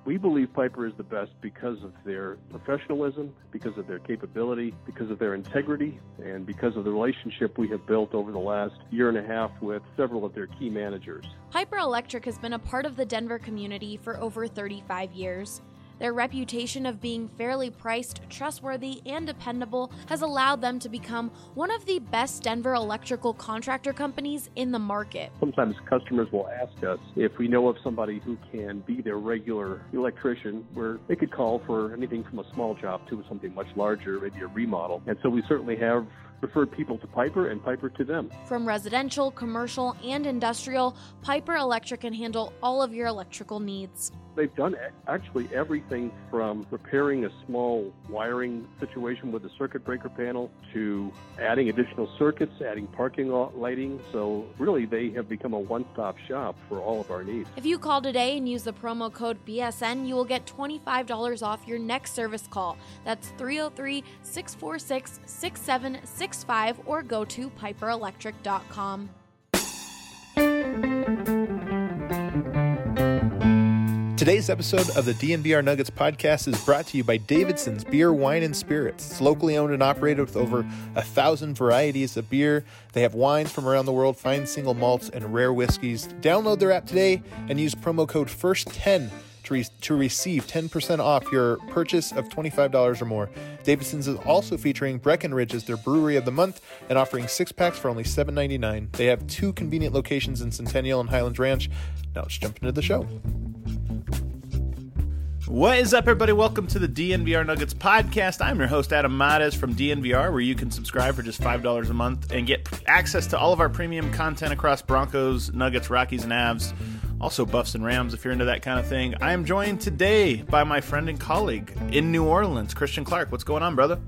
We believe Piper is the best because of their professionalism, because of their capability, because of their integrity, and because of the relationship we have built over the last year and a half with several of their key managers. Piper Electric has been a part of the Denver community for over 35 years. Their reputation of being fairly priced, trustworthy, and dependable has allowed them to become one of the best Denver electrical contractor companies in the market. Sometimes customers will ask us if we know of somebody who can be their regular electrician, where they could call for anything from a small job to something much larger, maybe a remodel. And so we certainly have referred people to Piper and Piper to them. From residential, commercial, and industrial, Piper Electric can handle all of your electrical needs. They've done actually everything from repairing a small wiring situation with a circuit breaker panel to adding additional circuits, adding parking lot lighting. So really, they have become a one-stop shop for all of our needs. If you call today and use the promo code BSN, you will get $25 off your next service call. That's 303-646-6765 or go to piperelectric.com. Today's episode of the DNVR Nuggets podcast is brought to you by Davidson's Beer, Wine, and Spirits. It's locally owned and operated with over 1,000 varieties of beer. They have wines from around the world, fine single malts, and rare whiskeys. Download their app today and use promo code FIRST10 to receive 10% off your purchase of $25 or more. Davidson's is also featuring Breckenridge as their brewery of the month and offering 6-packs for only $7.99. They have 2 convenient locations in Centennial and Highlands Ranch. Now let's jump into the show. What is up, everybody? Welcome to the DNVR Nuggets podcast. I'm your host, Adam Mares from DNVR, where you can subscribe for just $5 a month and get access to all of our premium content across Broncos, Nuggets, Rockies, and Avs. Also Buffs and Rams if you're into that kind of thing. I am joined today by my friend and colleague in New Orleans, Christian Clark. What's going on, brother?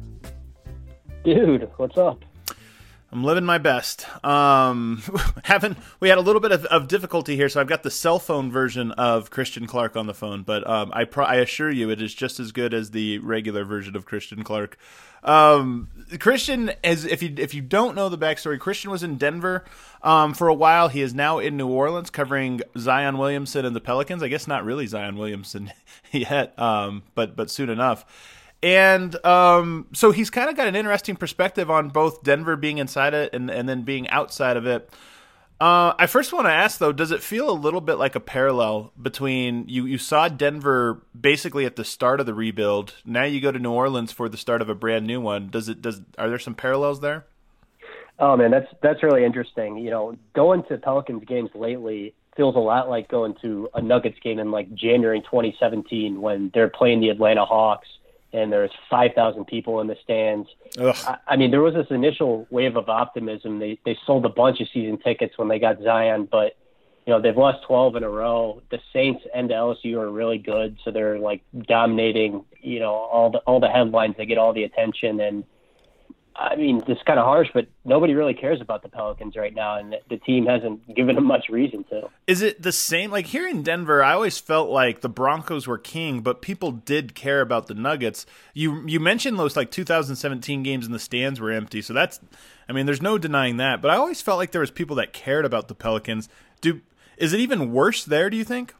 Dude, what's up? I'm living my best. We had a little bit of difficulty here, so I've got the cell phone version of Christian Clark on the phone, but I assure you it is just as good as the regular version of Christian Clark. Christian, if you don't know the backstory, Christian was in Denver for a while. He is now in New Orleans covering Zion Williamson and the Pelicans. I guess not really Zion Williamson yet, but soon enough. And so he's kind of got an interesting perspective on both Denver being inside it and then being outside of it. I first want to ask, though, does it feel a little bit like a parallel between you saw Denver basically at the start of the rebuild, now you go to New Orleans for the start of a brand new one? Are there some parallels there? Oh, man, that's really interesting. You know, going to Pelicans games lately feels a lot like going to a Nuggets game in like January 2017 when they're playing the Atlanta Hawks and there's 5,000 people in the stands. I mean, there was this initial wave of optimism. They sold a bunch of season tickets when they got Zion, but, you know, they've lost 12 in a row. The Saints and the LSU are really good, so they're, like, dominating, you know, all the headlines. They get all the attention, and, I mean, it's kind of harsh, but nobody really cares about the Pelicans right now, and the team hasn't given them much reason to. Is it the same? Like here in Denver, I always felt like the Broncos were king, but people did care about the Nuggets. You mentioned those like 2017 games and the stands were empty, so there's no denying that. But I always felt like there was people that cared about the Pelicans. Is it even worse there, do you think?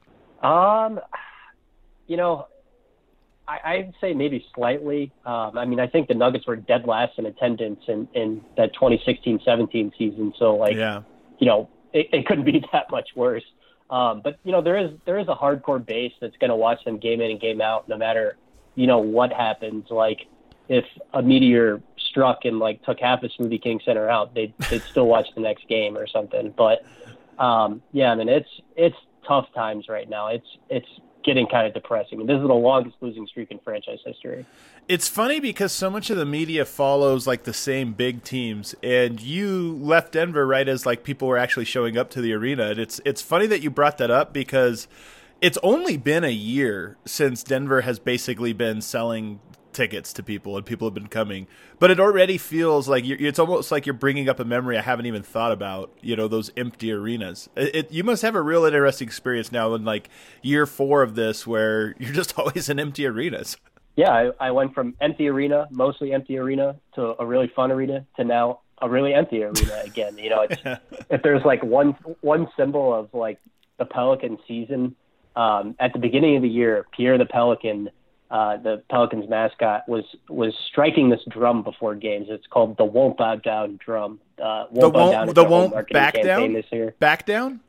You know, I'd say maybe slightly. I mean, I think the Nuggets were dead last in attendance in that 2016-17 season. So, like, yeah. You know, it couldn't be that much worse. But, you know, there is a hardcore base that's going to watch them game in and game out no matter, you know, what happens. Like, if a meteor struck and, like, took half of Smoothie King Center out, they'd still watch the next game or something. But, yeah, I mean, it's tough times right now. It's getting kind of depressing. I mean, this is the longest losing streak in franchise history. It's funny because so much of the media follows like the same big teams, and you left Denver right as like people were actually showing up to the arena. And it's funny that you brought that up because it's only been a year since Denver has basically been selling tickets to people and people have been coming, but it already feels like it's almost like you're bringing up a memory I haven't even thought about, you know, those empty arenas. You must have a real interesting experience now in like year 4 of this where you're just always in empty arenas. Yeah, I went from mostly empty arena to a really fun arena to now a really empty arena again. You know, it's, if there's like one symbol of like the Pelican season, At the beginning of the year, Pierre the Pelican, the Pelicans mascot, was striking this drum before games. It's called the Won't Bow Down drum. Won't back down this year. Back down?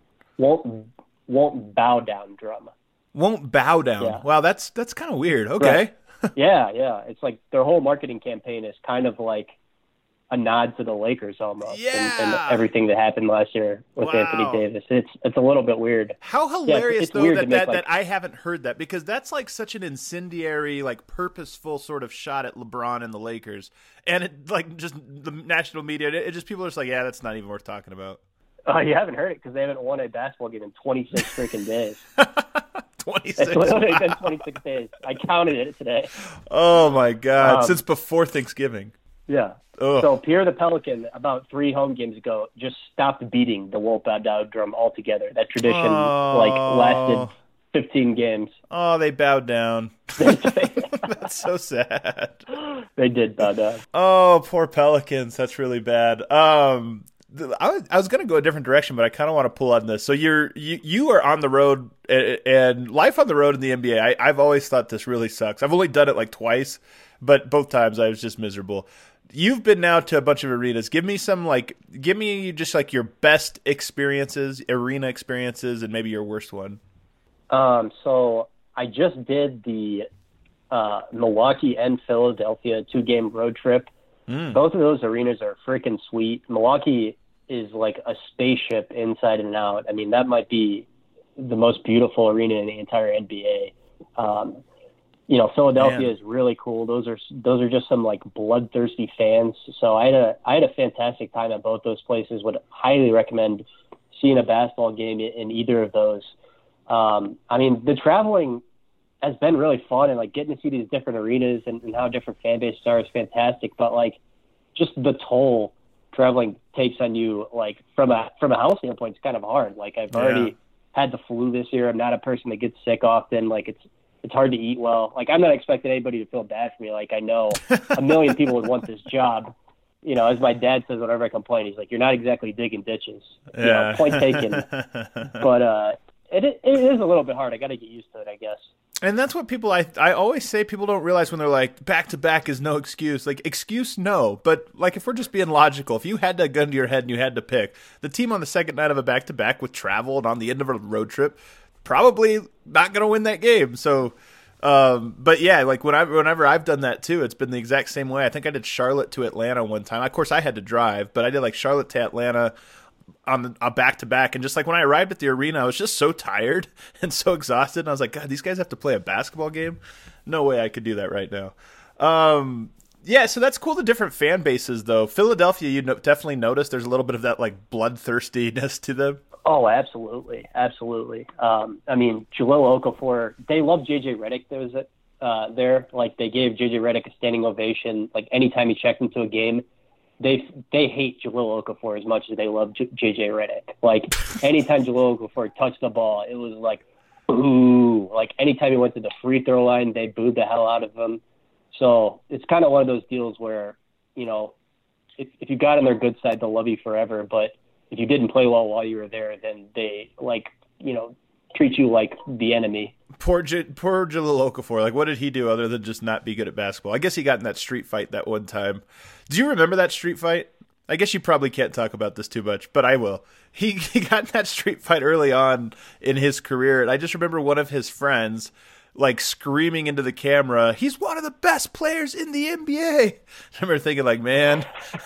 Won't bow down drum. Won't bow down. Yeah. Wow, that's kind of weird. Okay. Right. Yeah. It's like their whole marketing campaign is kind of like a nod to the Lakers almost, and everything that happened last year with Anthony Davis. It's a little bit weird. How hilarious it's though weird that I haven't heard that, because that's like such an incendiary, like purposeful sort of shot at LeBron and the Lakers, and it like just the national media. It just people are just like, yeah, that's not even worth talking about. You haven't heard it because they haven't won a basketball game in 26 freaking days. 26. It's literally been 26 days. I counted it today. Oh my God! Since before Thanksgiving. Yeah. Ugh. So Pierre the Pelican, about 3 home games ago, just stopped beating the Won't Bow Down drum altogether. That tradition lasted 15 games. Oh, they bowed down. That's so sad. They did bow down. Oh, poor Pelicans. That's really bad. I was going to go a different direction, but I kind of want to pull on this. So you are on the road, and life on the road in the NBA. I've always thought this really sucks. I've only done it like twice, but both times I was just miserable. You've been now to a bunch of arenas. Give me just like your best experiences, arena experiences, and maybe your worst one. So I just did the Milwaukee and Philadelphia 2-game road trip. Both of those arenas are freaking sweet. Milwaukee is like a spaceship inside and out. I mean, that might be the most beautiful arena in the entire NBA. Philadelphia is really cool. Those are just some like bloodthirsty fans. So I had a fantastic time at both those places. Would highly recommend seeing a basketball game in either of those. The traveling has been really fun, and like getting to see these different arenas and how different fan bases are is fantastic. But like just the toll traveling takes on you, like from a health standpoint, it's kind of hard. Like I've already had the flu this year. I'm not a person that gets sick often. Like it's hard to eat well. Like I'm not expecting anybody to feel bad for me. Like I know a million people would want this job. You know, as my dad says whenever I complain, he's like, "You're not exactly digging ditches." Yeah. You know, point taken. But it is a little bit hard. I got to get used to it, I guess. And that's what people, I always say, people don't realize when they're like, back-to-back is no excuse. Like, excuse, no. But, like, if we're just being logical, if you had that gun to your head and you had to pick, the team on the second night of a back-to-back with travel and on the end of a road trip, probably not going to win that game. So, but yeah, like, whenever I've done that, too, it's been the exact same way. I think I did Charlotte to Atlanta one time. Of course, I had to drive, but I did, like, Charlotte to Atlanta on a back-to-back, and just like when I arrived at the arena, I was just so tired and so exhausted, and I was like, God, these guys have to play a basketball game? No way I could do that right now. Yeah, so that's cool, the different fan bases, though. Philadelphia, you definitely notice there's a little bit of that like bloodthirstiness to them. Oh, absolutely. Jalil Okafor, they love JJ Redick. There was there. Like, they gave JJ Redick a standing ovation. Like, anytime he checked into a game, they hate Jalil Okafor as much as they love JJ Redick. Like, anytime Jalil Okafor touched the ball, it was like, ooh. Like, anytime he went to the free throw line, they booed the hell out of him. So it's kind of one of those deals where, you know, if you got on their good side, they'll love you forever. But if you didn't play well while you were there, then they, like, you know, treat you like the enemy. Poor Jalil Okafor. Like, what did he do other than just not be good at basketball? I guess he got in that street fight that one time. Do you remember that street fight? I guess you probably can't talk about this too much, but I will. He got in that street fight early on in his career, and I just remember one of his friends like screaming into the camera, "He's one of the best players in the NBA." I remember thinking, like, man,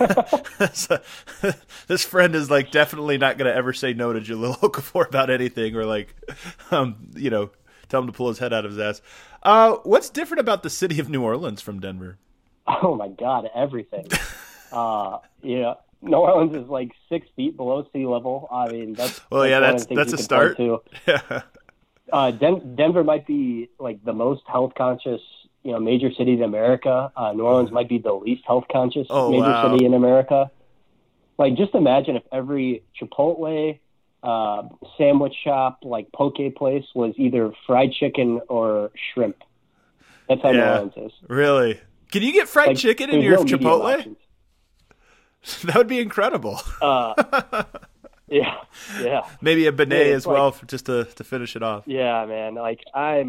this friend is like definitely not going to ever say no to Jalil Okafor about anything, or like, you know, tell him to pull his head out of his ass. What's different about the city of New Orleans from Denver? Oh my God, everything. Yeah, New Orleans is like 6 feet below sea level. I mean, that's a start. Yeah. Denver might be like the most health conscious, you know, major city in America. New Orleans might be the least health conscious city in America. Like, just imagine if every Chipotle, sandwich shop, like poke place was either fried chicken or shrimp. That's how New Orleans is. Really? Can you get fried chicken in your Chipotle? That would be incredible. Yeah. Maybe a beignet Yeah, as well, for, just to finish it off. Yeah, man. Like I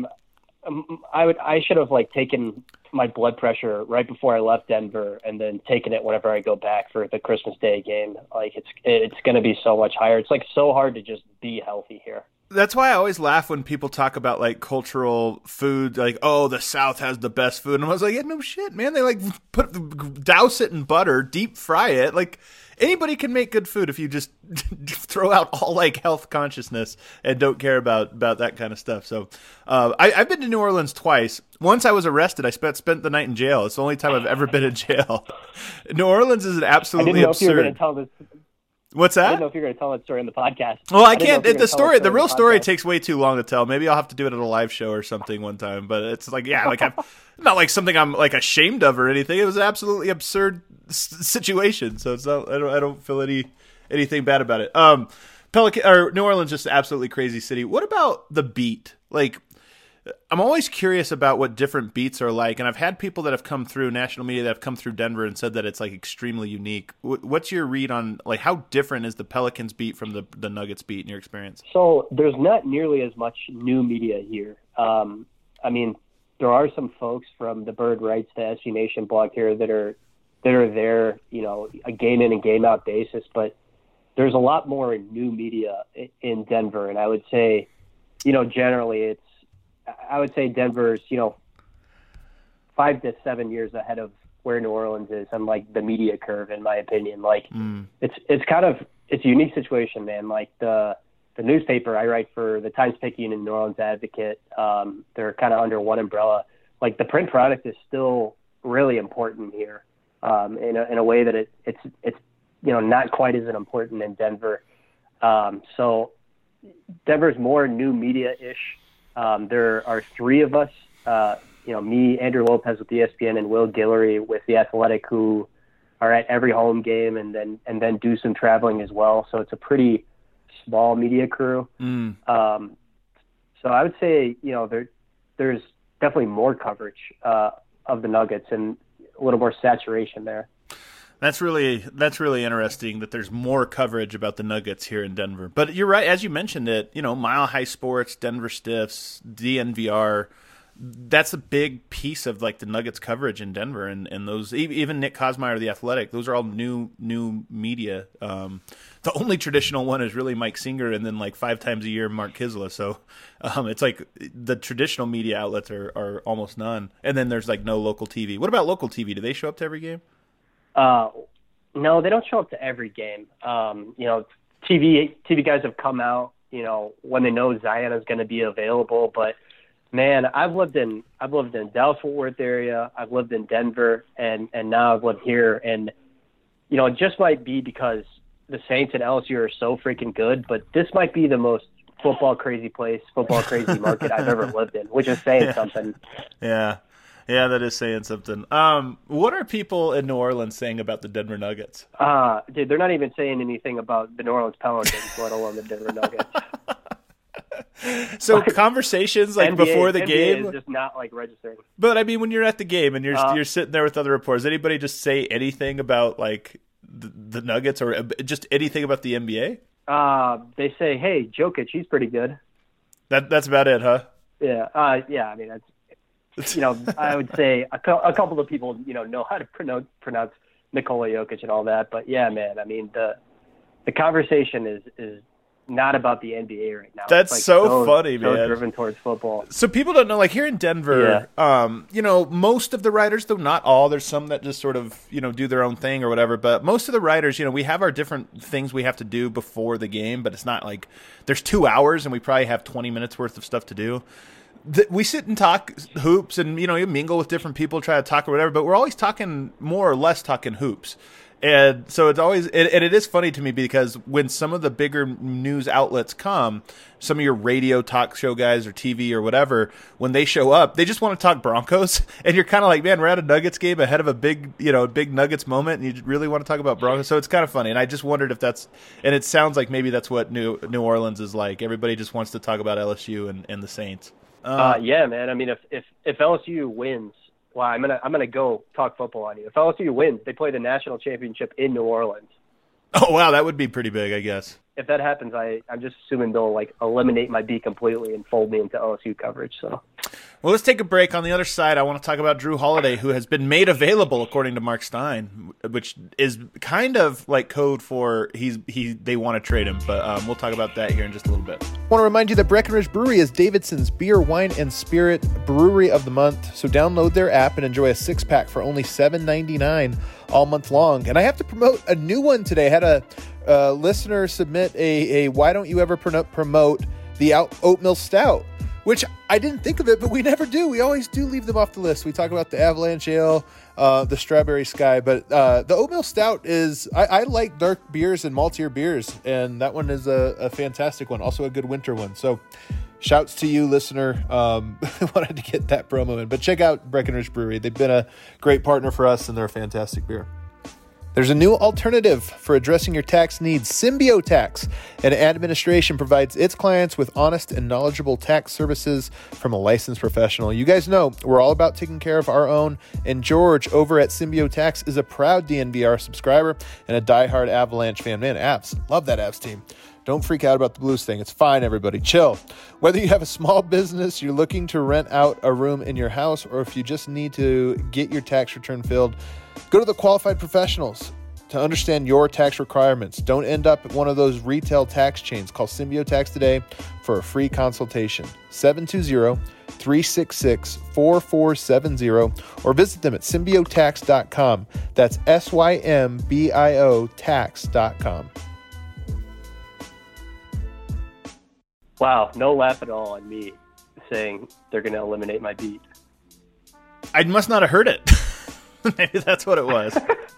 should have like taken my blood pressure right before I left Denver, and then taken it whenever I go back for the Christmas Day game. Like it's going to be so much higher. It's like so hard to just be healthy here. That's why I always laugh when people talk about like cultural food, like, oh, the South has the best food. And I was like, yeah, no shit, man. They like douse it in butter, deep fry it. Like anybody can make good food if you just throw out all like health consciousness and don't care about that kind of stuff. So I've been to New Orleans twice. Once I was arrested. I spent the night in jail. It's the only time I've ever been in jail. New Orleans is an absolutely absurd. You were going to tell this. What's that? I didn't know if you're going to tell that story in the podcast. Well, I can't. The real story takes way too long to tell. Maybe I'll have to do it at a live show or something one time. But it's like, yeah, like not like something I'm like ashamed of or anything. It was an absolutely absurd situation. So it's not. I don't feel anything bad about it. New Orleans just an absolutely crazy city. What about the beat? Like, I'm always curious about what different beats are like, and I've had people that have come through national media that have come through Denver and said that it's like extremely unique. What's your read on like how different is the Pelicans beat from the Nuggets beat in your experience? So there's not nearly as much new media here. I mean, there are some folks from the Bird Writes to SC Nation blog here that are there, you know, a game in and game out basis, but there's a lot more new media in Denver, and I would say, you know, generally I would say Denver's, you know, 5 to 7 years ahead of where New Orleans is on like the media curve, in my opinion. Like it's a unique situation, man. Like the newspaper I write for, the Times-Picayune and New Orleans Advocate, they're kind of under one umbrella. Like the print product is still really important here, in a way that it's you know, not quite as important in Denver. So Denver's more new media-ish. There are 3 of us, you know, me, Andrew Lopez with ESPN, and Will Guillory with The Athletic, who are at every home game and then do some traveling as well. So it's a pretty small media crew. So I would say, you know, there's definitely more coverage of the Nuggets and a little more saturation there. That's really interesting that there's more coverage about the Nuggets here in Denver. But you're right, as you mentioned it, you know, Mile High Sports, Denver Stiffs, DNVR, that's a big piece of like the Nuggets coverage in Denver, and those, even Nick Kosmeier, The Athletic, those are all new media. The only traditional one is really Mike Singer, and then like 5 times a year Mark Kisla. So it's like the traditional media outlets are almost none, and then there's like no local TV. What about local TV? Do they show up to every game? No, they don't show up to every game. You know, TV guys have come out, you know, when they know Zion is going to be available. But man, I've lived in Dallas-Fort Worth area. I've lived in Denver, and now I've lived here. And you know, it just might be because the Saints and LSU are so freaking good, but this might be the most football crazy market I've ever lived in, which is saying something. Yeah. Yeah, that is saying something. What are people in New Orleans saying about the Denver Nuggets? Dude, they're not even saying anything about the New Orleans Pelicans, let alone the Denver Nuggets. So conversations like NBA, before the game is just not like registering. But I mean, when you're at the game and you're sitting there with other reporters, anybody just say anything about like the Nuggets or just anything about the NBA? They say, "Hey, Jokic, he's pretty good." That's about it, huh? Yeah. Yeah. I mean, that's. You know, I would say a couple of people, you know how to pronounce Nikola Jokic and all that. But yeah, man, I mean, the conversation is not about the NBA right now. That's like so funny, man. So driven towards football. So people don't know, like here in Denver, you know, most of the writers, though not all, there's some that just sort of, you know, do their own thing or whatever. But most of the writers, you know, we have our different things we have to do before the game, but it's not like there's 2 hours and we probably have 20 minutes worth of stuff to do. We sit and talk hoops and, you know, you mingle with different people, try to talk or whatever, but we're always talking more or less talking hoops. And so it's always, and it is funny to me because when some of the bigger news outlets come, some of your radio talk show guys or TV or whatever, when they show up, they just want to talk Broncos. And you're kind of like, man, we're at a Nuggets game ahead of a big Nuggets moment, and you really want to talk about Broncos. So it's kind of funny. And I just wondered if that's, and it sounds like maybe that's what New Orleans is like. Everybody just wants to talk about LSU and the Saints. Yeah, man. I mean, if LSU wins, well, I'm gonna go talk football on you. If LSU wins, they play the national championship in New Orleans. Oh, wow, that would be pretty big, I guess. If that happens, I'm just assuming they'll like eliminate my beat completely and fold me into LSU coverage. So, well, let's take a break. On the other side, I want to talk about Drew Holiday, who has been made available, according to Mark Stein, which is kind of like code for they want to trade him. But we'll talk about that here in just a little bit. I want to remind you that Breckenridge Brewery is Davidson's Beer, Wine, and Spirit Brewery of the Month. So download their app and enjoy a 6-pack for only $7.99 all month long. And I have to promote a new one today. I had a listener submit a why don't you ever promote the oatmeal stout, which I didn't think of it, but we never do. We always do leave them off the list. We talk about the Avalanche Ale, the Strawberry Sky, but the oatmeal stout is, I like dark beers and maltier beers, and that one is a fantastic one, also a good winter one. So shouts to you, listener. Wanted to get that promo in, but check out Breckenridge Brewery. They've been a great partner for us, and they're a fantastic beer. There's a new alternative for addressing your tax needs. Symbio Tax and Administration provides its clients with honest and knowledgeable tax services from a licensed professional. You guys know we're all about taking care of our own, and George over at Symbio Tax is a proud DNVR subscriber and a diehard Avalanche fan. Man, Avs, love that Avs team. Don't freak out about the Blues thing. It's fine, everybody. Chill. Whether you have a small business, you're looking to rent out a room in your house, or if you just need to get your tax return filled, go to the qualified professionals to understand your tax requirements. Don't end up at one of those retail tax chains. Call Symbio Tax today for a free consultation. 720-366-4470 or visit them at symbiotax.com. That's SYMBIO tax.com. wow, no laugh at all on me saying they're going to eliminate my beat. I must not have heard it. Maybe that's what it was.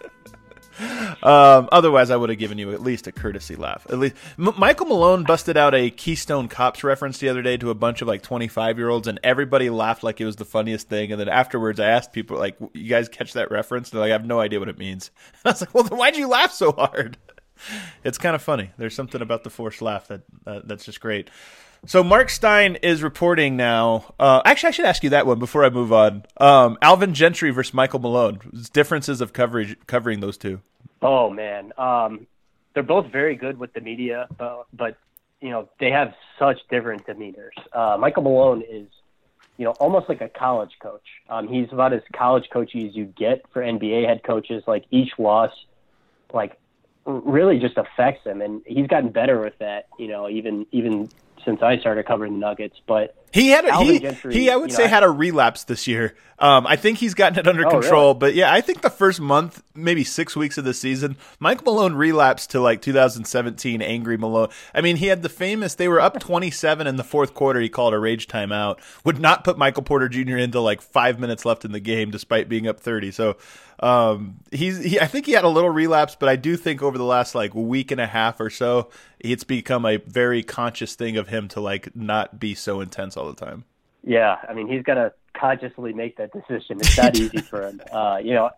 Otherwise, I would have given you at least a courtesy laugh. At least Michael Malone busted out a Keystone Cops reference the other day to a bunch of like 25-year-olds, and everybody laughed like it was the funniest thing. And then afterwards, I asked people, like, "You guys catch that reference?" They're like, "I have no idea what it means." And I was like, "Well, then why'd you laugh so hard?" It's kind of funny. There's something about the forced laugh that's just great. So Mark Stein is reporting now. Actually, I should ask you that one before I move on. Alvin Gentry versus Michael Malone. Differences of covering those two. Oh man, they're both very good with the media, but you know they have such different demeanors. Michael Malone is, you know, almost like a college coach. He's about as college coachy as you get for NBA head coaches. Like each loss, like really just affects him, and he's gotten better with that. You know, even since I started covering the Nuggets, but he had I would say had a relapse this year. I think he's gotten it under control, really? But yeah, I think the first month, maybe 6 weeks of the season, Mike Malone relapsed to like 2017 angry Malone. I mean, he had they were up 27 in the fourth quarter. He called a rage timeout, would not put Michael Porter Jr. into like 5 minutes left in the game, despite being up 30. So I think he had a little relapse, but I do think over the last like week and a half or so, it's become a very conscious thing of him to like not be so intense all the time. Yeah, I mean, he's got to consciously make that decision. It's not easy for him. You know,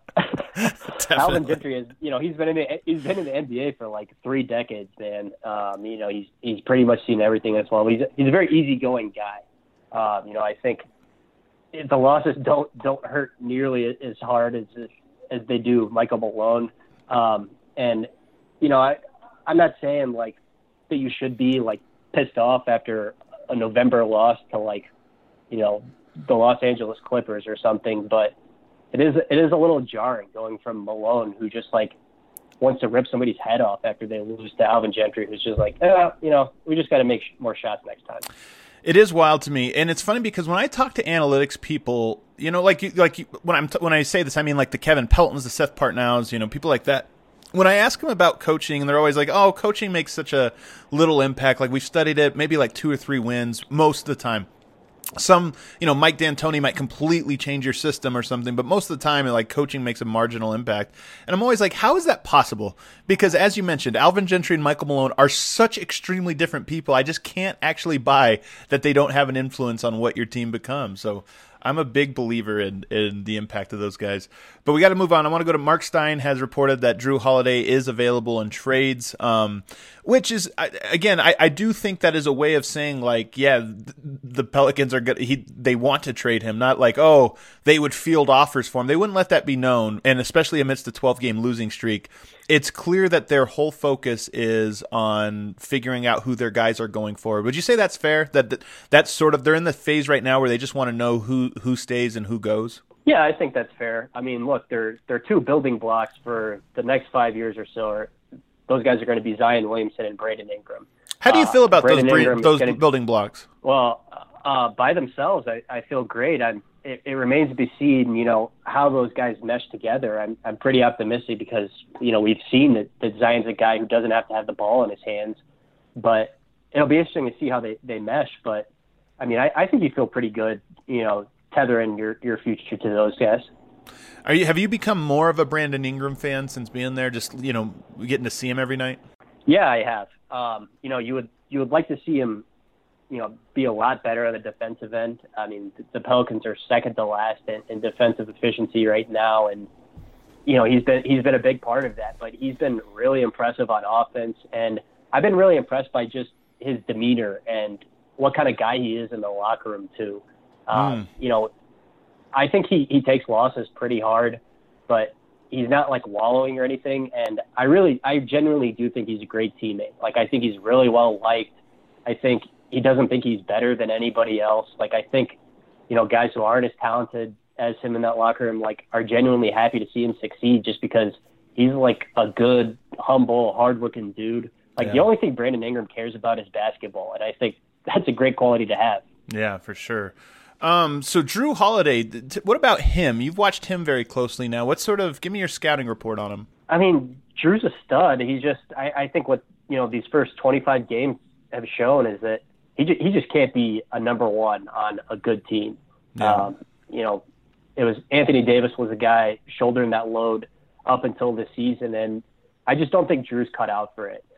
Alvin Gentry is, you know, he's been in the NBA for like 3 decades, man. You know, he's pretty much seen everything as well. He's a very easygoing guy. You know, I think the losses don't hurt nearly as hard as they do Michael Malone. And you know, I'm not saying like that you should be like pissed off after a November loss to like, you know, the Los Angeles Clippers or something, but it is a little jarring going from Malone, who just like wants to rip somebody's head off after they lose, to Alvin Gentry, who's just like, you know, we just got to make more shots next time. It is wild to me, and it's funny because when I talk to analytics people, you know, when I say this, I mean like the Kevin Peltons, the Seth Partnows, you know, people like that. When I ask them about coaching, and they're always like, "Oh, coaching makes such a little impact. Like we've studied it, maybe like 2 or 3 wins most of the time." Some, you know, Mike D'Antoni might completely change your system or something, but most of the time, like, coaching makes a marginal impact. And I'm always like, how is that possible? Because as you mentioned, Alvin Gentry and Michael Malone are such extremely different people. I just can't actually buy that they don't have an influence on what your team becomes. So I'm a big believer in the impact of those guys. But we got to move on. I want to go to Mark Stein has reported that Drew Holiday is available in trades, which is, again, I do think that is a way of saying, like, yeah, the Pelicans are good. They want to trade him, not like, oh, they would field offers for him. They wouldn't let that be known, and especially amidst the 12-game losing streak. it's clear that their whole focus is on figuring out who their guys are going forward. Would you say that's fair? That's sort of, they're in the phase right now where they just want to know who stays and who goes? Yeah, I think that's fair. I mean, look, they're two building blocks for the next 5 years or so. Those guys are going to be Zion Williamson and Brandon Ingram. How do you feel about those Ingram building blocks? Well, by themselves, I feel great. It remains to be seen, how those guys mesh together. I'm pretty optimistic because, we've seen that Zion's a guy who doesn't have to have the ball in his hands. But it'll be interesting to see how they mesh. But, I mean, I think you feel pretty good, tethering your future to those guys. Have you become more of a Brandon Ingram fan since being there, just, getting to see him every night? Yeah, I have. You would like to see him, be a lot better on the defensive end. I mean, the Pelicans are second to last in defensive efficiency right now, and he's been a big part of that. But he's been really impressive on offense, and I've been really impressed by just his demeanor and what kind of guy he is in the locker room too. I think he takes losses pretty hard, but he's not like wallowing or anything. And I genuinely do think he's a great teammate. Like, I think he's really well liked. I think he doesn't think he's better than anybody else. Like, I think, guys who aren't as talented as him in that locker room, like, are genuinely happy to see him succeed just because he's like a good, humble, hardworking dude. Like, The only thing Brandon Ingram cares about is basketball. And I think that's a great quality to have. Yeah, for sure. So Jrue Holiday, what about him? You've watched him very closely now. Give me your scouting report on him. I mean, Drew's a stud. He's just, I think what, these first 25 games have shown is that he just can't be a number one on a good team. Yeah. It was Anthony Davis was a guy shouldering that load up until this season. And I just don't think Drew's cut out for it.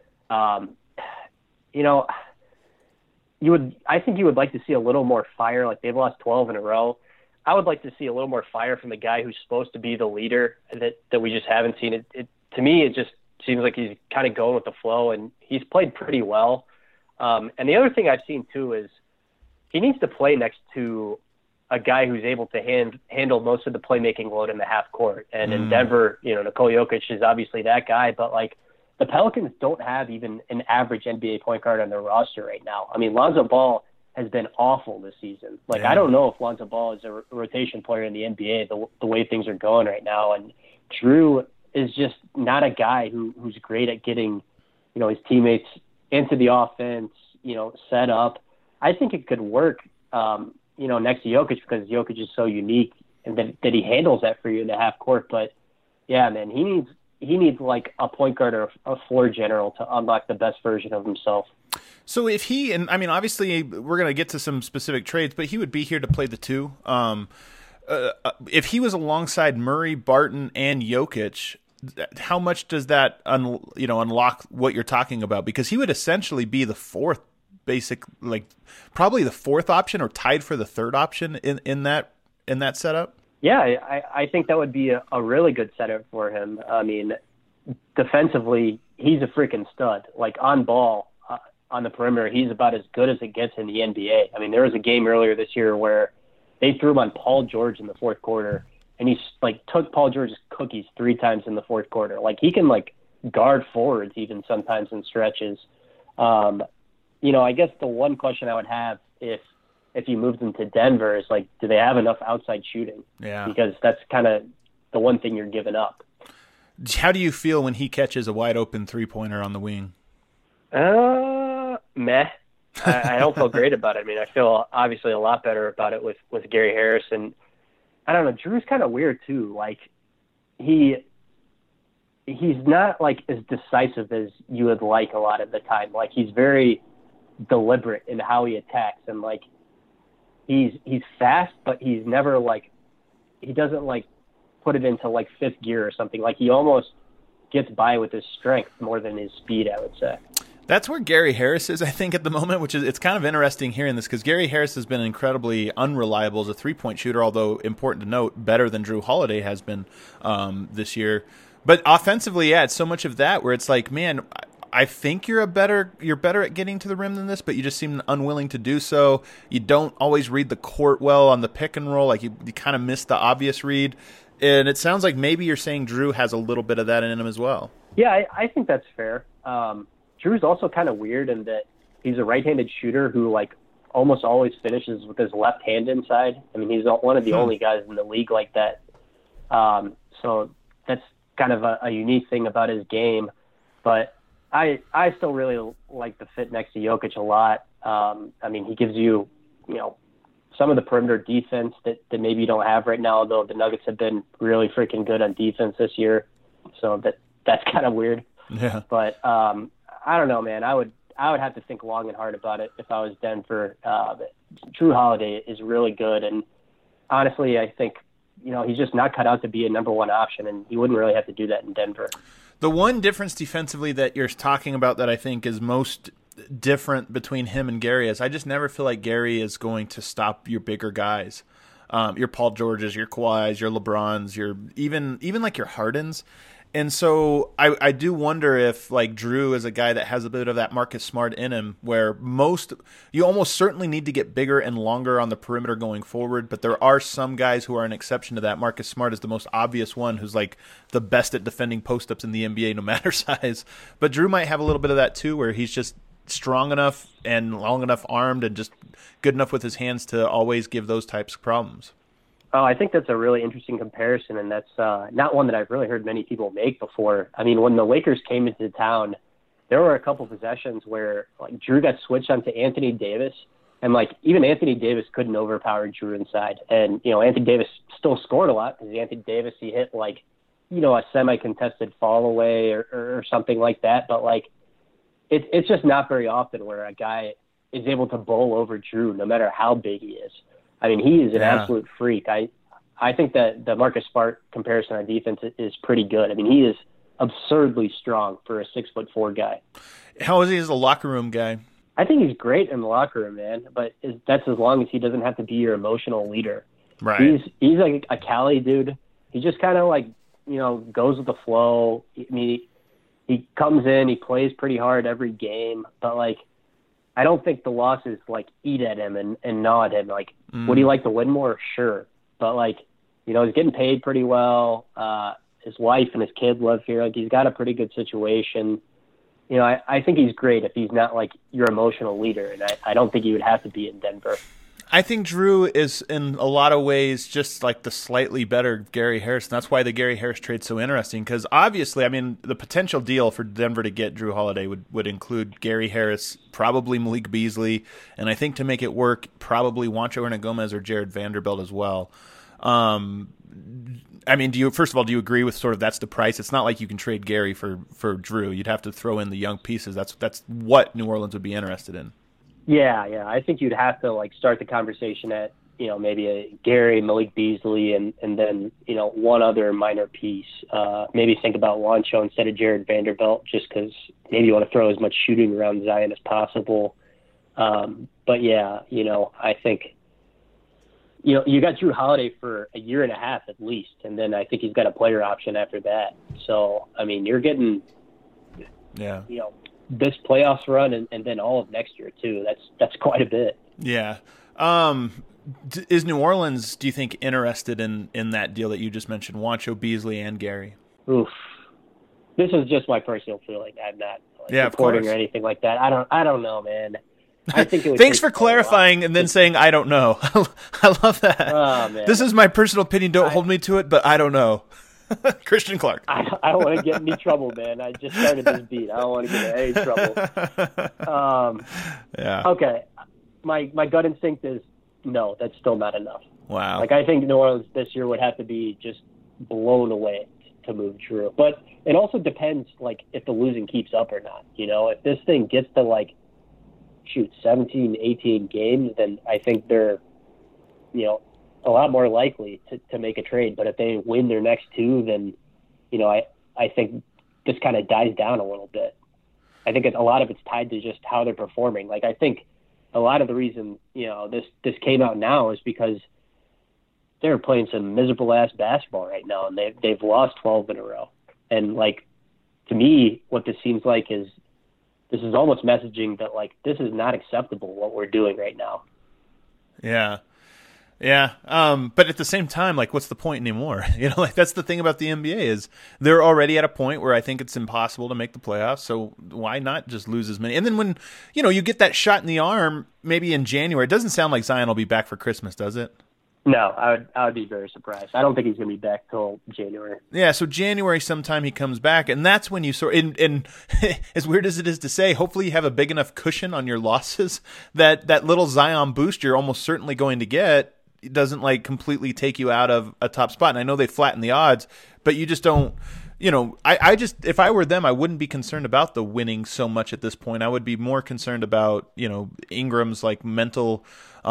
I think you would like to see a little more fire. Like, they've lost 12 in a row. I would like to see a little more fire from the guy who's supposed to be the leader that we just haven't seen. It to me, it just seems like he's kind of going with the flow, and he's played pretty well. And the other thing I've seen too is he needs to play next to a guy who's able to handle most of the playmaking load in the half court. And in Denver, Nikola Jokic is obviously that guy, but like, the Pelicans don't have even an average NBA point guard on their roster right now. I mean, Lonzo Ball has been awful this season. Like, I don't know if Lonzo Ball is a rotation player in the NBA the way things are going right now. And Jrue is just not a guy who's great at getting, his teammates into the offense, set up. I think it could work, next to Jokic because Jokic is so unique and that he handles that for you in the half court. But yeah, man, he needs like a point guard or a floor general to unlock the best version of himself. So if he, and I mean, obviously we're going to get to some specific trades, but he would be here to play the two. If he was alongside Murray, Barton, and Jokic, how much does that unlock what you're talking about? Because he would essentially be the fourth probably the fourth option or tied for the third option in that setup. Yeah, I think that would be a really good setup for him. I mean, defensively, he's a freaking stud. Like, on ball, on the perimeter, he's about as good as it gets in the NBA. I mean, there was a game earlier this year where they threw him on Paul George in the fourth quarter, and he took Paul George's cookies 3 times in the fourth quarter. Like, he can guard forwards even sometimes in stretches. I guess the one question I would have if you moved them to Denver is do they have enough outside shooting? Yeah. Because that's kind of the one thing you're giving up. How do you feel when he catches a wide open 3-pointer on the wing? Meh. I don't feel great about it. I mean, I feel obviously a lot better about it with Gary Harris. And I don't know, Drew's kind of weird too. Like, he's not as decisive as you would like a lot of the time. Like, he's very deliberate in how he attacks, and he's fast, but he's never he doesn't put it into fifth gear or something. Like, he almost gets by with his strength more than his speed, I would say. That's where Gary Harris is, I think, at the moment, which is, it's kind of interesting hearing this because Gary Harris has been incredibly unreliable as a 3-point shooter, although important to note, better than Jrue Holiday has been this year. But offensively, yeah, it's so much of that where it's like, man, I think you're better at getting to the rim than this, but you just seem unwilling to do so. You don't always read the court well on the pick and roll. Like you kind of miss the obvious read. And it sounds like maybe you're saying Drew has a little bit of that in him as well. Yeah, I think that's fair. Drew's also kind of weird in that he's a right-handed shooter who, like, almost always finishes with his left hand inside. I mean, he's one of the only guys in the league like that. So that's kind of a unique thing about his game. But I still really like the fit next to Jokic a lot. I mean, he gives you, some of the perimeter defense that maybe you don't have right now, though the Nuggets have been really freaking good on defense this year. So that's kind of weird. Yeah. But I don't know, man. I would have to think long and hard about it if I was Denver. Drew Holiday is really good, and honestly, I think he's just not cut out to be a number one option, and he wouldn't really have to do that in Denver. The one difference defensively that you're talking about that I think is most different between him and Gary is I just never feel like Gary is going to stop your bigger guys. Your Paul Georges, your Kawhis, your LeBrons, your even like your Hardens. And so I do wonder if, like, Drew is a guy that has a bit of that Marcus Smart in him, where you almost certainly need to get bigger and longer on the perimeter going forward, but there are some guys who are an exception to that. Marcus Smart is the most obvious one, who's like the best at defending post-ups in the NBA, no matter size. But Drew might have a little bit of that too, where he's just strong enough and long enough armed and just good enough with his hands to always give those types of problems. Oh, I think that's a really interesting comparison, and that's not one that I've really heard many people make before. I mean, when the Lakers came into town, there were a couple possessions where, like, Drew got switched onto Anthony Davis, and, like, even Anthony Davis couldn't overpower Drew inside. And, Anthony Davis still scored a lot because Anthony Davis, he hit, like, a semi-contested fall away or something like that. But, like, it's just not very often where a guy is able to bowl over Drew no matter how big he is. I mean, he is an absolute freak. I think that the Marcus Smart comparison on defense is pretty good. I mean, he is absurdly strong for a 6'4" guy. How is he as a locker room guy? I think he's great in the locker room, man. But that's as long as he doesn't have to be your emotional leader. Right. He's like a Cali dude. He just kind of like goes with the flow. I mean, he comes in, he plays pretty hard every game, but like, I don't think the losses like eat at him and gnaw at him. Like, would he like to win more? Sure. But like, he's getting paid pretty well. His wife and his kid live here. Like, he's got a pretty good situation. I think he's great if he's not like your emotional leader. And I don't think he would have to be in Denver. I think Drew is in a lot of ways just like the slightly better Gary Harris. And that's why the Gary Harris trade's so interesting, because obviously, I mean, the potential deal for Denver to get Drew Holiday would include Gary Harris, probably Malik Beasley, and I think to make it work, probably Juancho Hernangomez or Jared Vanderbilt as well. I mean, do you agree with sort of that's the price? It's not like you can trade Gary for Drew. You'd have to throw in the young pieces. That's what New Orleans would be interested in. Yeah. I think you'd have to like start the conversation at, maybe a Gary, Malik Beasley, and then, one other minor piece. Maybe think about Juancho instead of Jared Vanderbilt, just because maybe you want to throw as much shooting around Zion as possible. But yeah, I think, you got Drew Holiday for a year and a half at least, and then I think he's got a player option after that. So, I mean, you're getting, this playoffs run and then all of next year too. That's quite a bit. Yeah. Is New Orleans, do you think, interested in that deal that you just mentioned, Juancho, Beasley, and Gary? Oof. This is just my personal feeling. I'm not supporting or anything like that. I don't know, man. I think it would Thanks for clarifying and then saying I don't know. I love that. Oh, man. This is my personal opinion. Don't hold me to it, but I don't know. Christian Clark. I don't want to get in any trouble, man. I just started this beat. I don't want to get in any trouble. Yeah. Okay. My gut instinct is no, that's still not enough. Wow. Like, I think New Orleans this year would have to be just blown away to move Drew. But it also depends, like, if the losing keeps up or not. If this thing gets to, 17, 18 games, then I think they're, a lot more likely to make a trade. But if they win their next two, then, I think this kind of dies down a little bit. I think a lot of it's tied to just how they're performing. Like, I think a lot of the reason, this came out now is because they're playing some miserable ass basketball right now, and they've lost 12 in a row. And to me, what this seems like is this is almost messaging that, like, this is not acceptable what we're doing right now. Yeah. Yeah. But at the same time, like, what's the point anymore? You know, like, that's the thing about the NBA is they're already at a point where I think it's impossible to make the playoffs. So why not just lose as many? And then when, you know, you get that shot in the arm, maybe in January, it doesn't sound like Zion will be back for Christmas, does it? No, I would be very surprised. I don't think he's going to be back till January. Yeah, so January sometime he comes back, and that's when you sort. And as weird as it is to say, hopefully you have a big enough cushion on your losses that little Zion boost you're almost certainly going to get doesn't like completely take you out of a top spot. And I know they flatten the odds, but you just don't. You know, I just, if I were them, I wouldn't be concerned about the winning so much at this point. I would be more concerned about, you know, Ingram's like mental,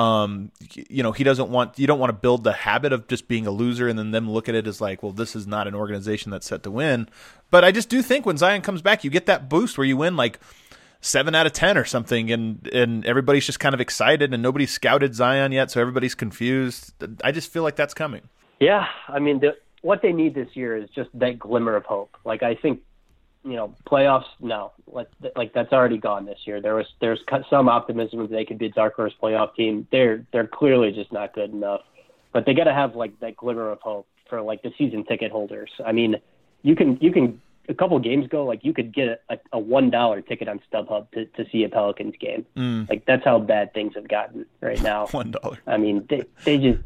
you know, you don't want to build the habit of just being a loser and then them look at it as like, well, this is not an organization that's set to win. But I just do think when Zion comes back, you get that boost where you win like 7 out of 10 or something. And everybody's just kind of excited and nobody's scouted Zion yet. So everybody's confused. I just feel like that's coming. Yeah. I mean, what they need this year is just that glimmer of hope. Like, I think, you know, playoffs, no, like that's already gone this year. There's some optimism that they could be a dark horse playoff team. They're clearly just not good enough, but they got to have like that glimmer of hope for like the season ticket holders. I mean, you can a couple games ago, like you could get a $1 ticket on StubHub to see a Pelicans game. Like that's how bad things have gotten right now. $1. I mean, they just,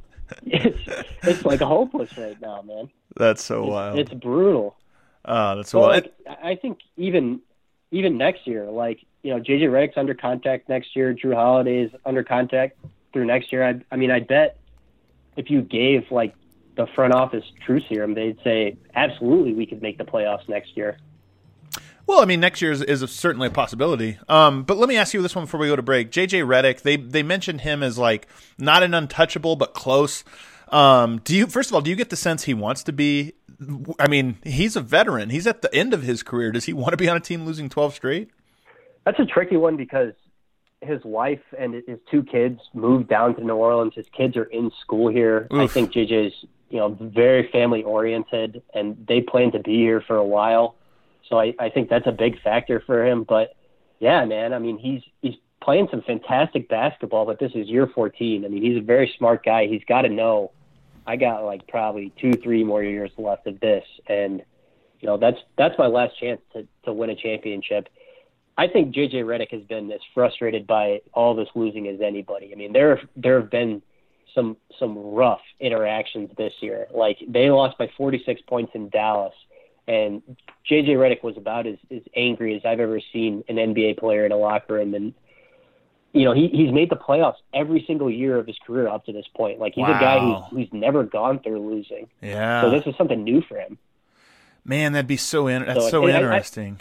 it's like hopeless right now, man. That's so wild. It's brutal. That's so wild. Like, I think even next year, like, you know, JJ Redick's under contract next year. Drew Holiday is under contract through next year. I mean, I bet if you gave like the front office truth serum, they'd say absolutely we could make the playoffs next year. Well, I mean, next year is certainly a possibility. But let me ask you this one before we go to break. JJ Redick, they mentioned him as like not an untouchable, but close. First of all, do you get the sense he wants to be? I mean, he's a veteran. He's at the end of his career. Does he want to be on a team losing 12 straight? That's a tricky one because his wife and his 2 kids moved down to New Orleans. His kids are in school here. Oof. I think JJ's, you know, very family oriented, and they plan to be here for a while. So I think that's a big factor for him. But yeah, man, I mean, he's playing some fantastic basketball, but this is year 14. I mean, he's a very smart guy. He's got to know I got like probably 2-3 more years left of this. And, you know, that's my last chance to win a championship. I think JJ Redick has been as frustrated by all this losing as anybody. I mean, there have been some rough interactions this year. Like, they lost by 46 points in Dallas, and JJ Redick was about as angry as I've ever seen an NBA player in a locker room. And, you know, he's made the playoffs every single year of his career up to this point. Like, he's a guy who's never gone through losing. Yeah. So this is something new for him. Man, that'd be so interesting.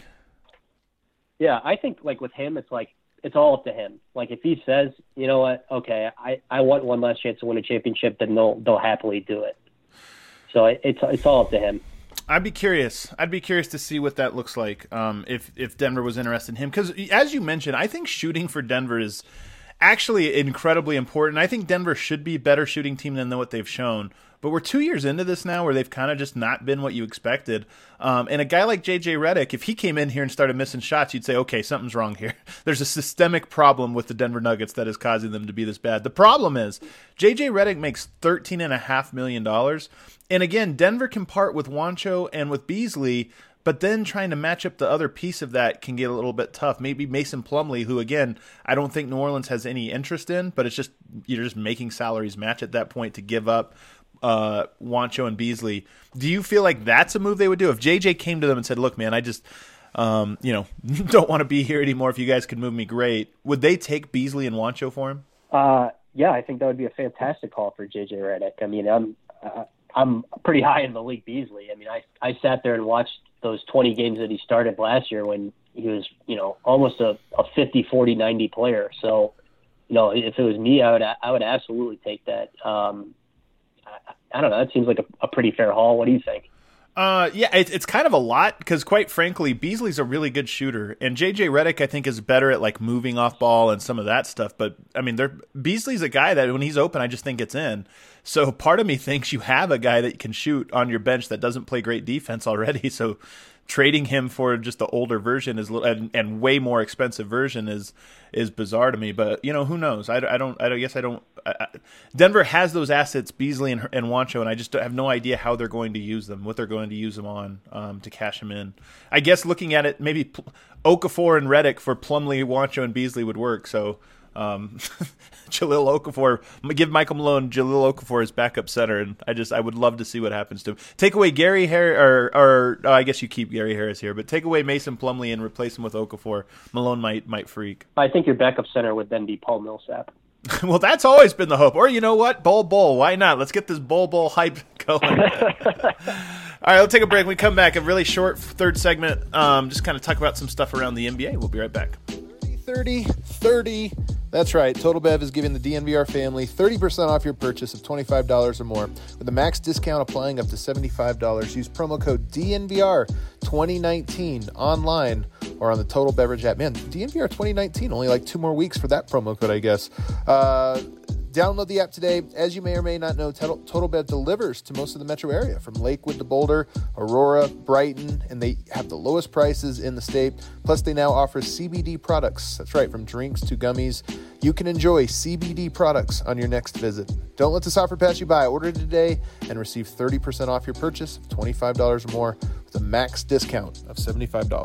Yeah, I think, like, with him, it's like, it's all up to him. Like, if he says, you know what, okay, I want one last chance to win a championship, then they'll happily do it. So it's all up to him. I'd be curious to see what that looks like if Denver was interested in him. Because, as you mentioned, I think shooting for Denver is actually incredibly important. I think Denver should be a better shooting team than what they've shown. But we're 2 years into this now where they've kind of just not been what you expected. And a guy like JJ Redick, if he came in here and started missing shots, you'd say, okay, something's wrong here. There's a systemic problem with the Denver Nuggets that is causing them to be this bad. The problem is JJ Redick makes $13.5 million. And again, Denver can part with Juancho and with Beasley, but then trying to match up the other piece of that can get a little bit tough. Maybe Mason Plumlee, who, again, I don't think New Orleans has any interest in, but it's just you're just making salaries match at that point to give up Juancho and Beasley. Do you feel like that's a move they would do? If JJ came to them and said, look, man, I just don't want to be here anymore. If you guys could move me, great. Would they take Beasley and Juancho for him? Yeah, I think that would be a fantastic call for JJ Redick. I mean, I'm pretty high in Malik Beasley. I mean, I sat there and watched those 20 games that he started last year when he was, you know, almost a 50, 40, 90 player. So, you know, if it was me, I would absolutely take that. I don't know. That seems like a pretty fair haul. What do you think? Yeah, it's kind of a lot because, quite frankly, Beasley's a really good shooter, and JJ Redick, I think, is better at like moving off ball and some of that stuff. But I mean, Beasley's a guy that when he's open, I just think it's in. So part of me thinks you have a guy that can shoot on your bench that doesn't play great defense already. So trading him for just the older version and way more expensive version is bizarre to me. But who knows? I guess I don't. Denver has those assets, Beasley and Juancho, and I just have no idea how they're going to use them, what they're going to use them on to cash them in. I guess looking at it, maybe Okafor and Redick for Plumlee, Juancho, and Beasley would work. So. Jahlil Okafor, give Michael Malone Jahlil Okafor as backup center, and I would love to see what happens to him. Take away Gary Harris, or I guess you keep Gary Harris here, but take away Mason Plumlee and replace him with Okafor. Malone might freak. I think your backup center would then be Paul Millsap. Well, that's always been the hope. Or you know what? Bol. Why not? Let's get this Bol hype going. All right, let's take a break. When we come back, a really short third segment, just kind of talk about some stuff around the NBA. We'll be right back. 30. That's right. Total Bev is giving the DNVR family 30% off your purchase of $25 or more with a max discount applying up to $75. Use promo code DNVR 2019 online or on the Total Beverage app. Man, DNVR 2019, only like 2 more weeks for that promo code, I guess. Download the app today. As you may or may not know, Total Bev delivers to most of the metro area, from Lakewood to Boulder, Aurora, Brighton, and they have the lowest prices in the state. Plus, they now offer CBD products. That's right, from drinks to gummies. You can enjoy CBD products on your next visit. Don't let this offer pass you by. Order today and receive 30% off your purchase of $25 or more with a max discount of $75.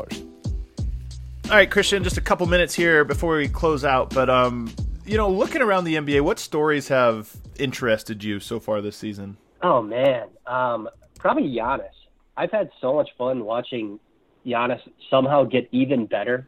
All right, Christian, just a couple minutes here before we close out, but looking around the NBA, what stories have interested you so far this season? Oh, man. Probably Giannis. I've had so much fun watching Giannis somehow get even better.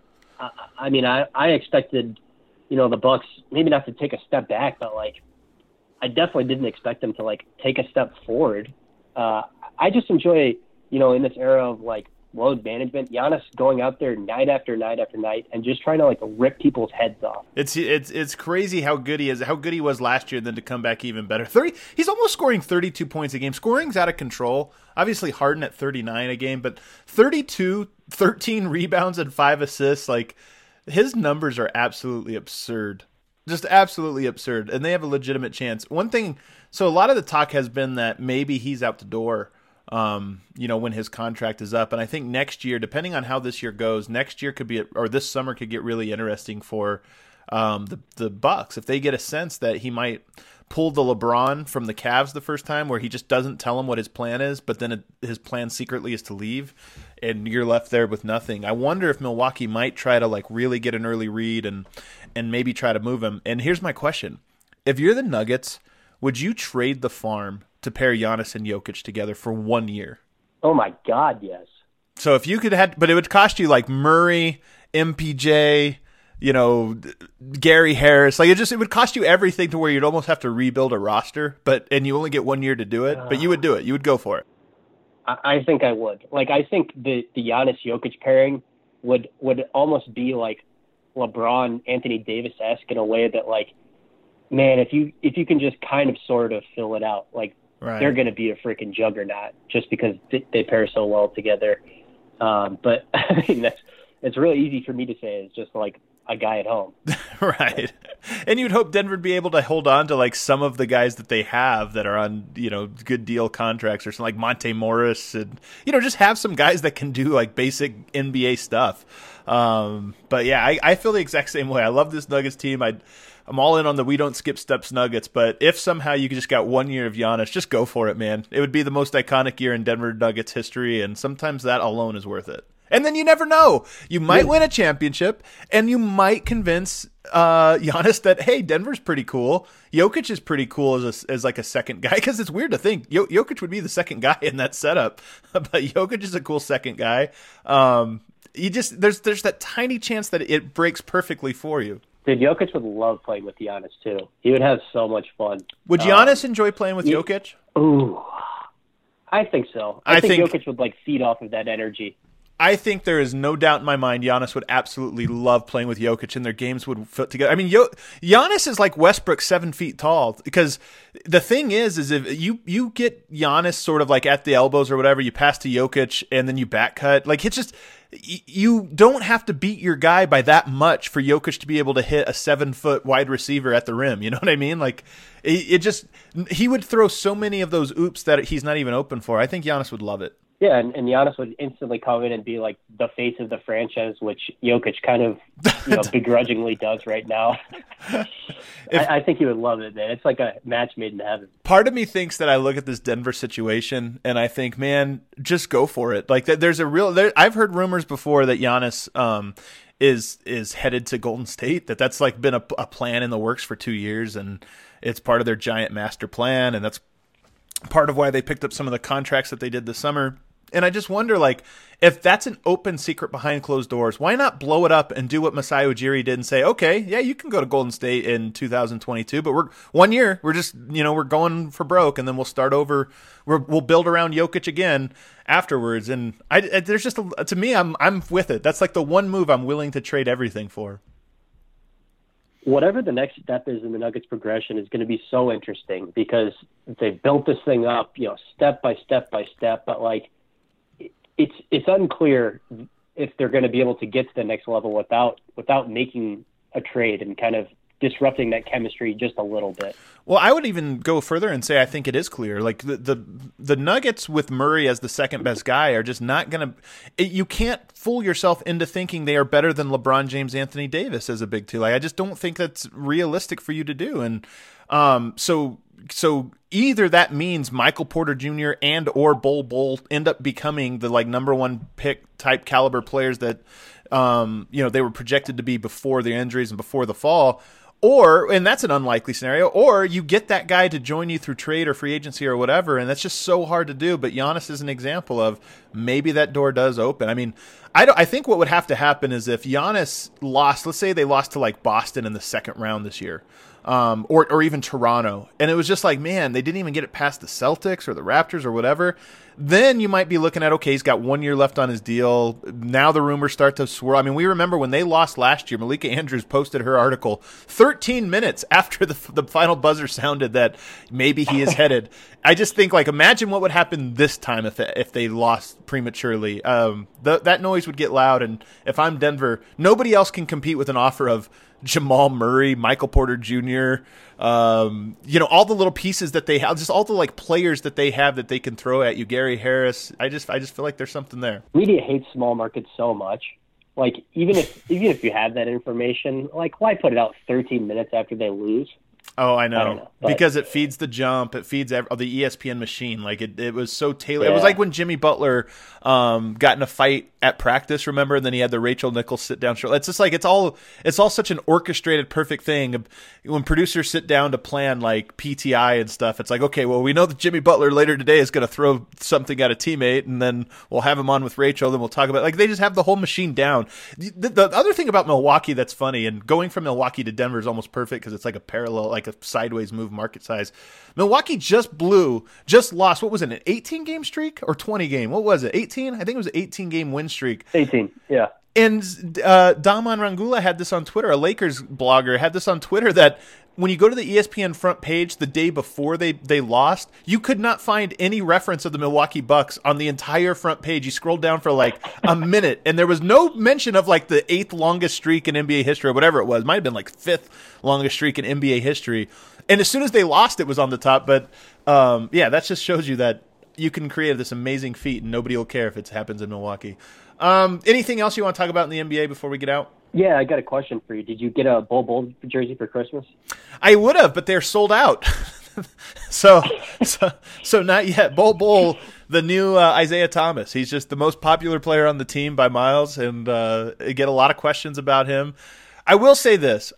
I expected, the Bucks maybe not to take a step back, but, I definitely didn't expect them to, take a step forward. I just enjoy, in this era of, load management, Giannis going out there night after night after night and just trying to rip people's heads off. It's crazy how good he is, how good he was last year, and then to come back even better. He's almost scoring 32 points a game. Scoring's out of control. Obviously Harden at 39 a game, but 32, 13 rebounds and 5 assists. His numbers are absolutely absurd. Just absolutely absurd. And they have a legitimate chance. One thing, so a lot of the talk has been that maybe he's out the door when his contract is up. And I think next year, depending on how this year goes, next year could be, or this summer could get really interesting for the Bucks. If they get a sense that he might pull the LeBron from the Cavs the first time, where he just doesn't tell him what his plan is, but then his plan secretly is to leave, and you're left there with nothing. I wonder if Milwaukee might try to really get an early read and maybe try to move him. And here's my question. If you're the Nuggets, would you trade the farm to pair Giannis and Jokic together for 1 year? Oh my God, yes. So if you could but it would cost you Murray, MPJ, Gary Harris. It would cost you everything to where you'd almost have to rebuild a roster, and you only get 1 year to do it, but you would do it. You would go for it. I think I would. I think the Giannis Jokic pairing would almost be LeBron, Anthony Davis-esque in a way that man, if you can just kind of sort of fill it out, right. They're going to be a freaking juggernaut just because they pair so well together. But it's really easy for me to say. It's just a guy at home. Right. And you'd hope Denver would be able to hold on to some of the guys that they have that are on, good deal contracts or something, like Monte Morris, and, just have some guys that can do basic NBA stuff. But yeah, I feel the exact same way. I love this Nuggets team. I'm all in on the we don't skip steps Nuggets, but if somehow you just got 1 year of Giannis, just go for it, man. It would be the most iconic year in Denver Nuggets history, and sometimes that alone is worth it. And then you never know. You might win a championship, and you might convince Giannis that, hey, Denver's pretty cool. Jokic is pretty cool as a second guy, because it's weird to think Jokic would be the second guy in that setup, but Jokic is a cool second guy. There's that tiny chance that it breaks perfectly for you. Dude, Jokic would love playing with Giannis, too. He would have so much fun. Would Giannis enjoy playing with Jokic? Ooh, I think so. I think Jokic would, feed off of that energy. I think there is no doubt in my mind Giannis would absolutely love playing with Jokic, and their games would fit together. I mean, Giannis is like Westbrook, 7 feet tall, because the thing is if you get Giannis sort of at the elbows or whatever, you pass to Jokic, and then you back cut. It's just, you don't have to beat your guy by that much for Jokic to be able to hit a 7-foot wide receiver at the rim. You know what I mean? He would throw so many of those oops that he's not even open for. I think Giannis would love it. Yeah, and Giannis would instantly come in and be like the face of the franchise, which Jokic kind of begrudgingly does right now. I think he would love it, man. It's like a match made in heaven. Part of me thinks that I look at this Denver situation and I think, man, just go for it. Like there's a real. I've heard rumors before that Giannis is headed to Golden State. That's like been a plan in the works for 2 years, and it's part of their giant master plan, and that's part of why they picked up some of the contracts that they did this summer. And I just wonder, like, if that's an open secret behind closed doors, why not blow it up and do what Masai Ujiri did and say, okay, yeah, you can go to Golden State in 2022, but we're 1 year, we're just, we're going for broke, and then we'll start over. We'll build around Jokic again afterwards. And there's just, to me, I'm with it. That's like the one move I'm willing to trade everything for. Whatever the next step is in the Nuggets progression is going to be so interesting because they've built this thing up, step by step by step, but like, it's unclear if they're going to be able to get to the next level without making a trade and kind of disrupting that chemistry just a little bit. Well, I would even go further and say I think it is clear. Like the Nuggets with Murray as the second best guy are just not going to. You can't fool yourself into thinking they are better than LeBron James, Anthony Davis as a big two. Like I just don't think that's realistic for you to do. And so either that means Michael Porter Jr. and or Bol end up becoming the like number one pick type caliber players that they were projected to be before the injuries and before the fall. And that's an unlikely scenario, or you get that guy to join you through trade or free agency or whatever, and that's just so hard to do. But Giannis is an example of maybe that door does open. I mean, I think what would have to happen is if Giannis lost, let's say they lost to like Boston in the second round this year, or even Toronto, and it was just like, man, they didn't even get it past the Celtics or the Raptors or whatever, then you might be looking at, okay, he's got 1 year left on his deal. Now the rumors start to swirl. I mean, we remember when they lost last year, Malika Andrews posted her article 13 minutes after the final buzzer sounded that maybe he is headed. I just think, like, imagine what would happen this time if they lost prematurely. That noise would get loud, and if I'm Denver, nobody else can compete with an offer of Jamal Murray, Michael Porter Jr., all the little pieces that they have, just all the like players that they have that they can throw at you, Gary Harris. I just feel like there's something there. Media hates small markets so much. Like even if you have that information, like why put it out 13 minutes after they lose? Oh, I know. I don't know, because it feeds the jump. It feeds the ESPN machine. Like it was so tailored. Yeah. It was like when Jimmy Butler got in a fight at practice, remember? And then he had the Rachel Nichols sit down show. It's just like it's all such an orchestrated, perfect thing. When producers sit down to plan like PTI and stuff, it's like, okay, well, we know that Jimmy Butler later today is going to throw something at a teammate, and then we'll have him on with Rachel, then we'll talk about it. Like they just have the whole machine down. The other thing about Milwaukee that's funny, and going from Milwaukee to Denver is almost perfect because it's like a parallel, like a sideways move market size. Milwaukee just lost, what was it, an 18-game streak or 20-game? What was it, 18? I think it was an 18-game win streak. 18, yeah. And Daman Rangula had this on Twitter, a Lakers blogger had this on Twitter, that when you go to the ESPN front page the day before they lost, you could not find any reference of the Milwaukee Bucks on the entire front page. You scrolled down for like a minute, and there was no mention of like the 8th longest streak in NBA history or whatever it was. It might have been like 5th longest streak in NBA history. And as soon as they lost, it was on the top. But that just shows you that you can create this amazing feat, and nobody will care if it happens in Milwaukee. Anything else you want to talk about in the NBA before we get out? Yeah, I got a question for you. Did you get a Bol jersey for Christmas? I would have, but they're sold out. so not yet. Bol, the new Isaiah Thomas. He's just the most popular player on the team by miles, and I get a lot of questions about him. I will say this.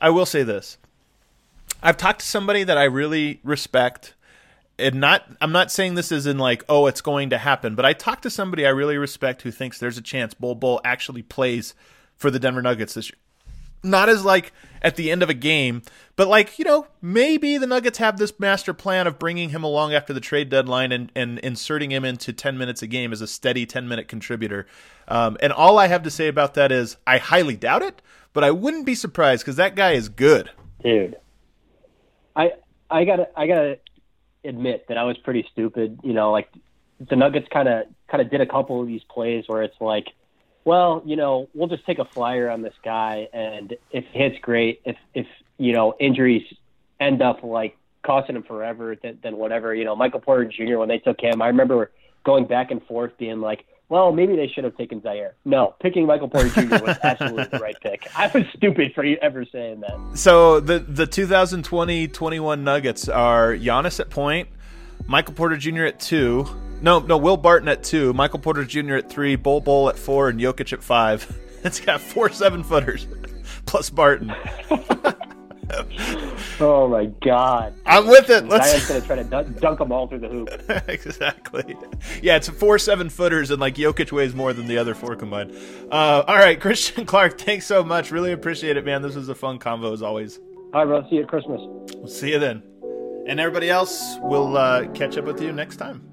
I've talked to somebody that I really respect, and I'm not saying this as in like, oh, it's going to happen, but I talked to somebody I really respect who thinks there's a chance Bol actually plays for the Denver Nuggets this year. Not as like at the end of a game, but like, maybe the Nuggets have this master plan of bringing him along after the trade deadline and inserting him into 10 minutes a game as a steady 10-minute contributor. And all I have to say about that is I highly doubt it, but I wouldn't be surprised because that guy is good. Dude, I gotta admit that I was pretty stupid. Like the Nuggets kind of did a couple of these plays where it's like, well, we'll just take a flyer on this guy, and if he hits, great. If injuries end up like costing him forever, then whatever. Michael Porter Jr., when they took him, I remember going back and forth being like, well, maybe they should have taken Zaire. No, picking Michael Porter Jr. was absolutely the right pick. I was stupid for ever saying that. So the 2020-21 Nuggets are Giannis at point, Michael Porter Jr. at 2. No, Will Barton at 2, Michael Porter Jr. at 3, Bol at 4, and Jokic at 5. It's got 4 7-footers plus Barton. Oh my God! I'm with it. Zion's gonna try to dunk them all through the hoop. Exactly. Yeah, it's 4 7-footers, and like Jokic weighs more than the other 4 combined. All right, Christian Clark, thanks so much. Really appreciate it, man. This was a fun convo as always. All right, bro. See you at Christmas. We'll see you then. And everybody else, we'll catch up with you next time.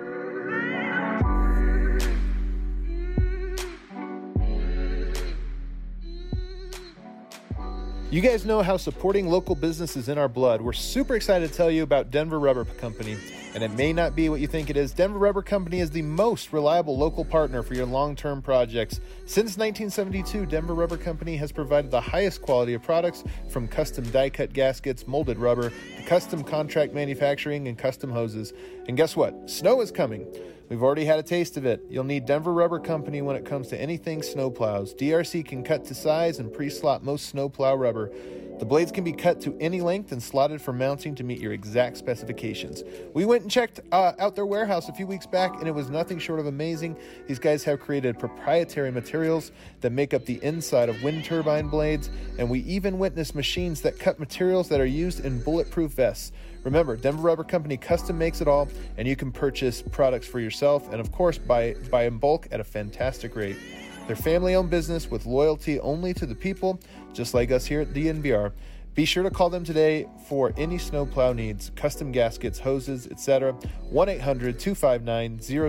You guys know how supporting local business is in our blood. We're super excited to tell you about Denver Rubber Company. And it may not be what you think it is. Denver Rubber Company is the most reliable local partner for your long-term projects. Since 1972, Denver Rubber Company has provided the highest quality of products, from custom die-cut gaskets, molded rubber, to custom contract manufacturing and custom hoses. And guess what? Snow is coming. We've already had a taste of it. You'll need Denver Rubber Company when it comes to anything snowplows. DRC can cut to size and pre-slot most snowplow rubber. The blades can be cut to any length and slotted for mounting to meet your exact specifications. We went and checked out their warehouse a few weeks back, and it was nothing short of amazing. These guys have created proprietary materials that make up the inside of wind turbine blades, and we even witnessed machines that cut materials that are used in bulletproof vests. Remember, Denver Rubber Company custom makes it all, and you can purchase products for yourself and, of course, buy in bulk at a fantastic rate. They're family-owned business with loyalty only to the people, just like us here at DNVR. Be sure to call them today for any snowplow needs, custom gaskets, hoses, etc.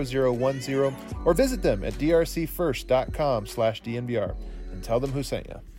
1-800-259-0010, or visit them at drcfirst.com/DNVR and tell them who sent you.